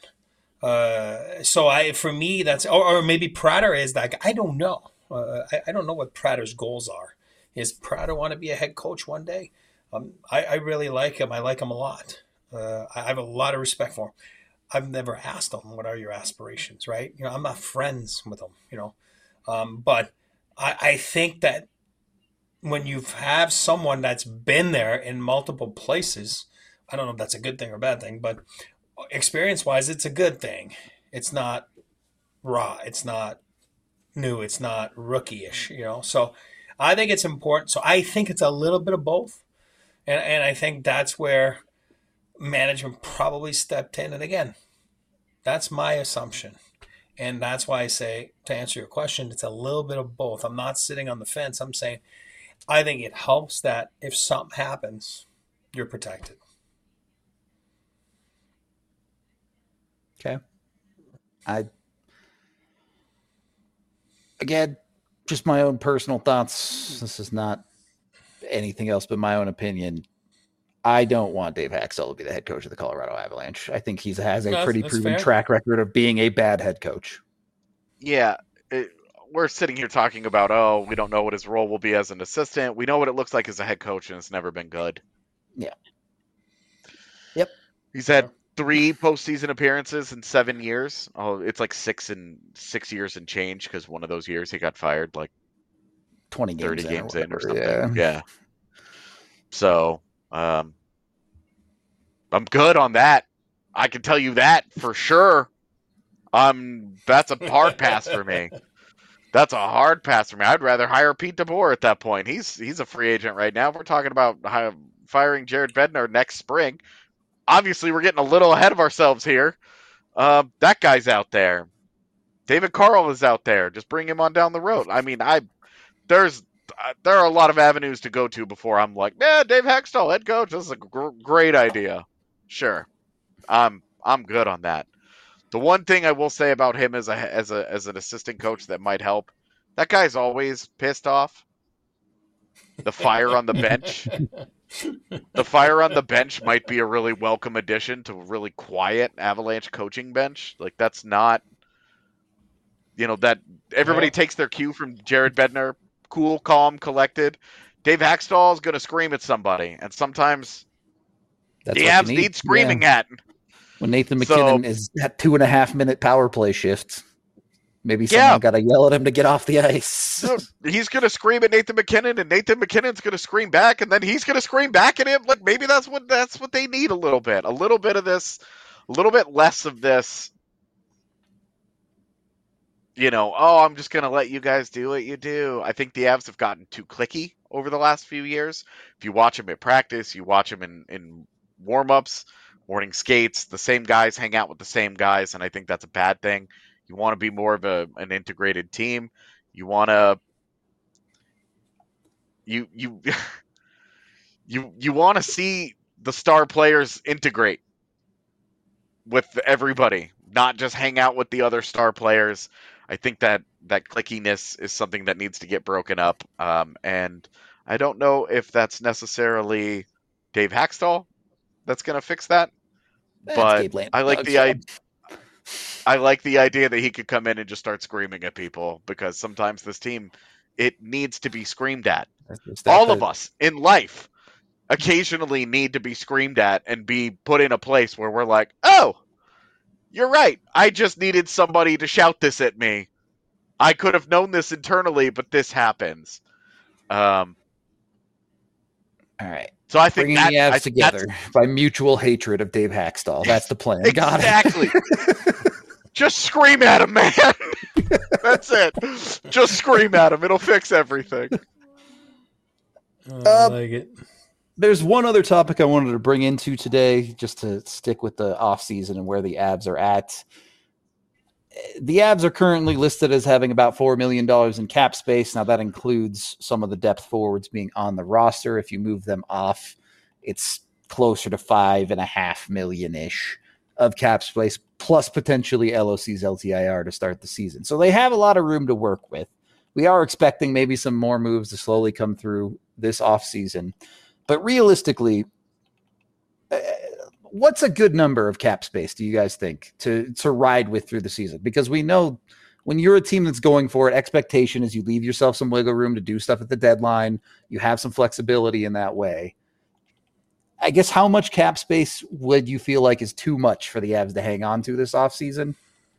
For me, that's, or maybe Prater is that guy. I don't know. I don't know what Prater's goals are. Is Prater want to be a head coach one day? I really like him. I like him a lot. I have a lot of respect for him. I've never asked him, what are your aspirations, right? I'm not friends with him, but I think that when you have someone that's been there in multiple places, I don't know if that's a good thing or a bad thing, but experience-wise, it's a good thing. It's not raw. It's not new. It's not rookie-ish, So I think it's important. So I think it's a little bit of both. And I think that's where management probably stepped in. And again, that's my assumption. And that's why I say, to answer your question, it's a little bit of both. I'm not sitting on the fence. I'm saying I think it helps that if something happens, you're protected. Okay. Again, just my own personal thoughts. This is not anything else but my own opinion. I don't want Dave Hakstol to be the head coach of the Colorado Avalanche. I think he has a pretty proven track record of being a bad head coach. Yeah. We're sitting here talking about, we don't know what his role will be as an assistant. We know what it looks like as a head coach, and it's never been good. Yeah. Yep. He's had 3 postseason appearances in 7 years. Oh, it's like 6 years and change, because one of those years he got fired like 30 games in or something. Yeah. So I'm good on that. I can tell you that for sure. That's a hard pass for me. That's a hard pass for me. I'd rather hire Pete DeBoer at that point. He's a free agent right now. We're talking about firing Jared Bednar next spring. Obviously, we're getting a little ahead of ourselves here. That guy's out there. David Carl is out there. Just bring him on down the road. I mean, there are a lot of avenues to go to before I'm like, Dave Hakstol, head coach. This is a great idea. Sure, I'm good on that. The one thing I will say about him as an assistant coach that might help, that guy's always pissed off. The fire on the bench. The fire on the bench might be a really welcome addition to a really quiet Avalanche coaching bench. Like, that's not, that everybody takes their cue from Jared Bednar. Cool, calm, collected. Dave Haxtell is going to scream at somebody, and sometimes That's the what Avs you need screaming at. When Nathan McKinnon is at 2.5-minute power play shift, maybe someone got to yell at him to get off the ice. No, he's going to scream at Nathan McKinnon, and Nathan McKinnon's going to scream back, and then he's going to scream back at him. Like, maybe that's what they need a little bit of this, a little bit less of this. I'm just going to let you guys do what you do. I think the Avs have gotten too cliquey over the last few years. If you watch them at practice, you watch them in warm-ups, morning skates, the same guys hang out with the same guys, and I think that's a bad thing. You want to be more of an integrated team. You want to you want to see the star players integrate with everybody, not just hang out with the other star players. I think that clickiness is something that needs to get broken up. And I don't know if that's necessarily Dave Haxtell that's going to fix that. But I like the idea that he could come in and just start screaming at people, because sometimes this team, it needs to be screamed at. All of us in life occasionally need to be screamed at and be put in a place where we're like, oh, you're right. I just needed somebody to shout this at me. I could have known this internally, but this happens. All right. So I think bringing the Avs together by mutual hatred of Dave Haxtell. That's the plan. Exactly. Just scream at him, man. That's it. Just scream at him. It'll fix everything. I like it. There's one other topic I wanted to bring into today, just to stick with the offseason and where the Avs are at. The Avs are currently listed as having about $4 million in cap space. Now, that includes some of the depth forwards being on the roster. If you move them off, it's closer to $5.5 million-ish of cap space, plus potentially LOC's LTIR to start the season. So they have a lot of room to work with. We are expecting maybe some more moves to slowly come through this offseason. But realistically, what's a good number of cap space, do you guys think, to ride with through the season? Because we know when you're a team that's going for it, expectation is you leave yourself some wiggle room to do stuff at the deadline. You have some flexibility in that way. I guess how much cap space would you feel like is too much for the Avs to hang on to this offseason?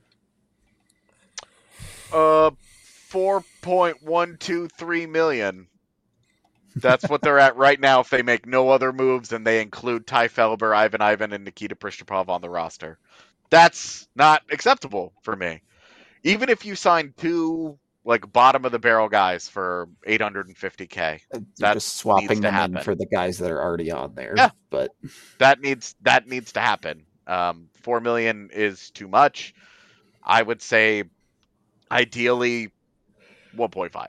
4.123 million. That's what they're at right now if they make no other moves and they include Ty Felber, Ivan, and Nikita Pristupov on the roster. That's not acceptable for me. Even if you sign two bottom-of-the-barrel guys for $850K. That's just swapping them in for the guys that are already on there. Yeah. But that needs to happen. $4 million is too much. I would say ideally 1.5.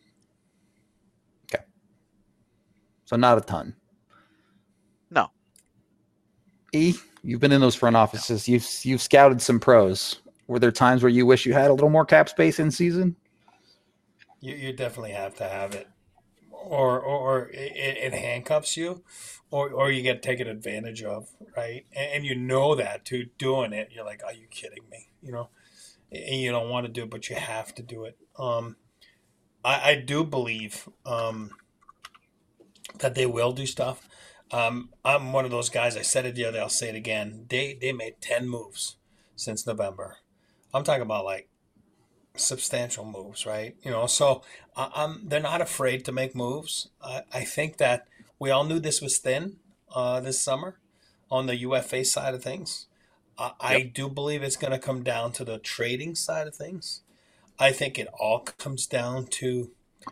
So not a ton. No. You've been in those front offices. You've scouted some pros. Were there times where you wish you had a little more cap space in season? You definitely have to have it, or it handcuffs you, or you get taken advantage of, right? And you know that too. Doing it, you're like, are you kidding me? And you don't want to do it, but you have to do it. I do believe that they will do stuff. I'm one of those guys. I said it the other day. I'll say it again. They made 10 moves since November. I'm talking about substantial moves, right? So they're not afraid to make moves. I think that we all knew this was thin this summer on the UFA side of things. I do believe it's going to come down to the trading side of things. I think it all comes down to,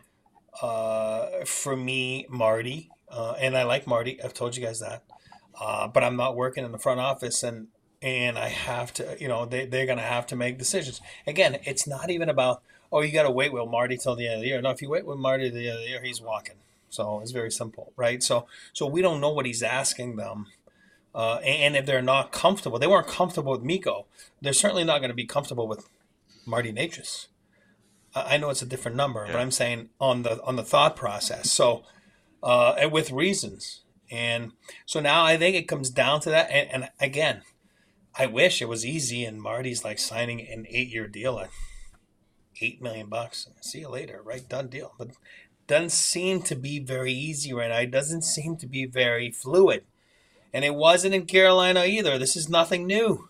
for me, Marty. And I like Marty. I've told you guys that. But I'm not working in the front office, and I have to, they're going to have to make decisions. Again, it's not even about, you got to wait with Marty till the end of the year. No, if you wait with Marty till the end of the year, he's walking. So it's very simple, right? So we don't know what he's asking them. And if they're not comfortable, they weren't comfortable with Mikko. They're certainly not going to be comfortable with Marty Necas. I know it's a different number, but I'm saying on the thought process. So, and with reasons. And so now I think it comes down to that. And again, I wish it was easy and Marty's like signing an 8-year deal at $8 million. See you later, right? Done deal. But doesn't seem to be very easy right now. It doesn't seem to be very fluid. And it wasn't in Carolina either. This is nothing new.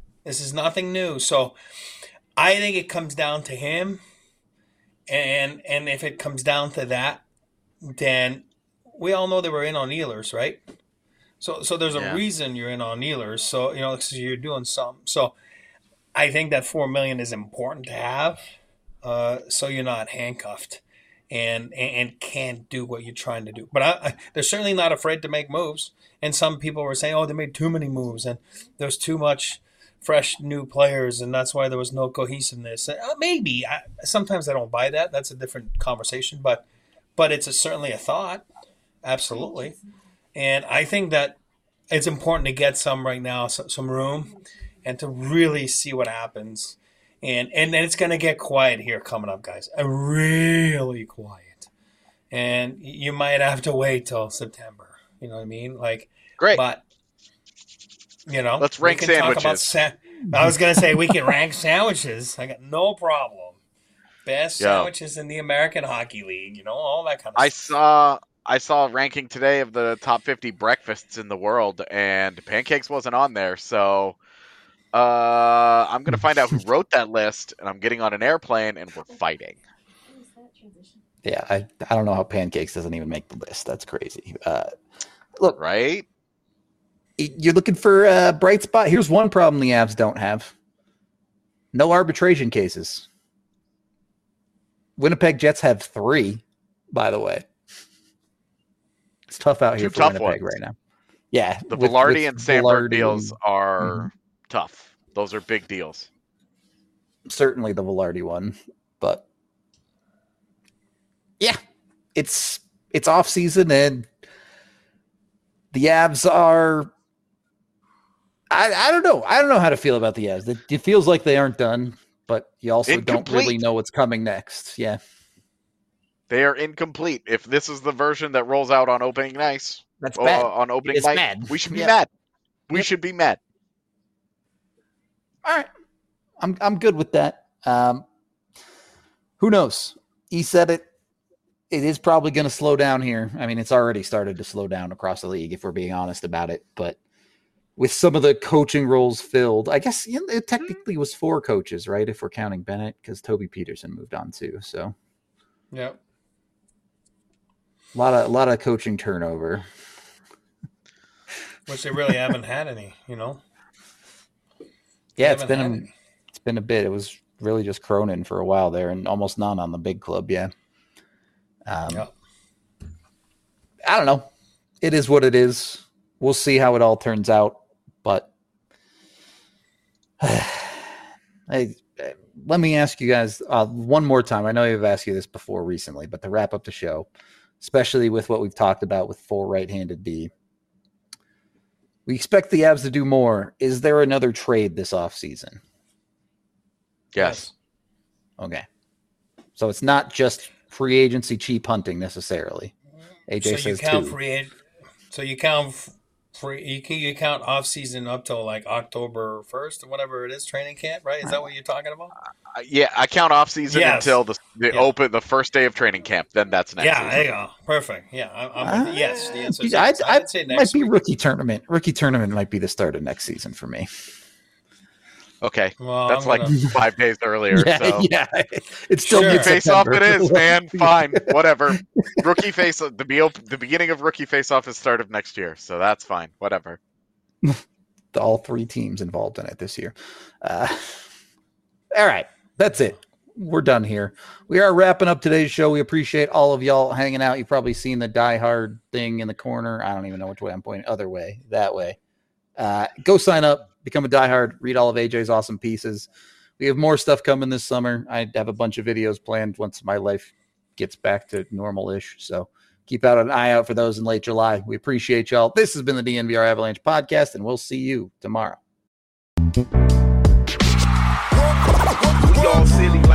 So I think it comes down to him. And if it comes down to that, then we all know they were in on Ehlers, right? So there's a reason you're in on Ehlers. So, because you're doing something. So I think that $4 million is important to have, so you're not handcuffed and can't do what you're trying to do. But they're certainly not afraid to make moves. And some people were saying, they made too many moves and there's too much fresh new players, and that's why there was no cohesiveness. Maybe. Sometimes I don't buy that. That's a different conversation. But it's certainly a thought. Absolutely. And I think that it's important to get some right now, some room, and to really see what happens. And then it's going to get quiet here coming up, guys. Really quiet. And you might have to wait till September. You know what I mean? Great. But, let's rank sandwiches. I was going to say we can rank sandwiches. I got no problem. Best sandwiches in the American Hockey League, all that kind of stuff. I saw a ranking today of the top 50 breakfasts in the world, and pancakes wasn't on there. So I'm going to find out who wrote that list, and I'm getting on an airplane, and we're fighting. Yeah, I don't know how pancakes doesn't even make the list. That's crazy. Look, right? You're looking for a bright spot. Here's one problem the Avs don't have. No arbitration cases. Winnipeg Jets have 3, by the way. It's tough out here for Winnipeg right now. Yeah. The Velarde and Samberg deals are tough. Those are big deals. Certainly the Velarde one. But yeah, it's off season and the Avs are I don't know. I don't know how to feel about the Avs. It feels like they aren't done, but you also don't really know what's coming next. Yeah. They are incomplete. If this is the version that rolls out on opening night, that's bad. On opening night, bad. We should be mad. We should be mad. All right, I'm good with that. Who knows? He said it. It is probably going to slow down here. I mean, it's already started to slow down across the league, if we're being honest about it. But with some of the coaching roles filled, I guess it technically was 4 coaches, right? If we're counting Bennett, because Toby Peterson moved on too. So, yeah. A lot of coaching turnover. Which they really haven't had any, Yeah, it's been a bit. It was really just Cronin for a while there, and almost none on the big club. Yeah. I don't know. It is what it is. We'll see how it all turns out. But let me ask you guys one more time. I know I've asked you this before recently, but to wrap up the show, especially with what we've talked about with 4 right-handed D, we expect the Avs to do more. Is there another trade this offseason? Yes. Okay. So it's not just free agency cheap hunting necessarily. AJ says 2. So you count you count off season up till like October 1st or whatever it is, training camp, right? Is that what you're talking about? Yeah, I count off season until the first day of training camp. Then that's next. Yeah, there you go. Perfect. Yeah, yes. The answer is yes. I'd say next might be week. rookie tournament. Rookie tournament might be the start of next season for me. Okay, well, that's like 5 days earlier. Yeah. It's still rookie face-off. It is, man. Fine, whatever. Rookie face-off. The beginning of rookie face-off is start of next year, so that's fine. Whatever. All 3 teams involved in it this year. All right, that's it. We're done here. We are wrapping up today's show. We appreciate all of y'all hanging out. You've probably seen the Die Hard thing in the corner. I don't even know which way I'm pointing. Other way, that way. Go sign up. Become a diehard, read all of AJ's awesome pieces. We have more stuff coming this summer. I have a bunch of videos planned once my life gets back to normal-ish. So keep an eye out for those in late July. We appreciate y'all. This has been the DNVR Avalanche podcast, and we'll see you tomorrow. Y'all silly.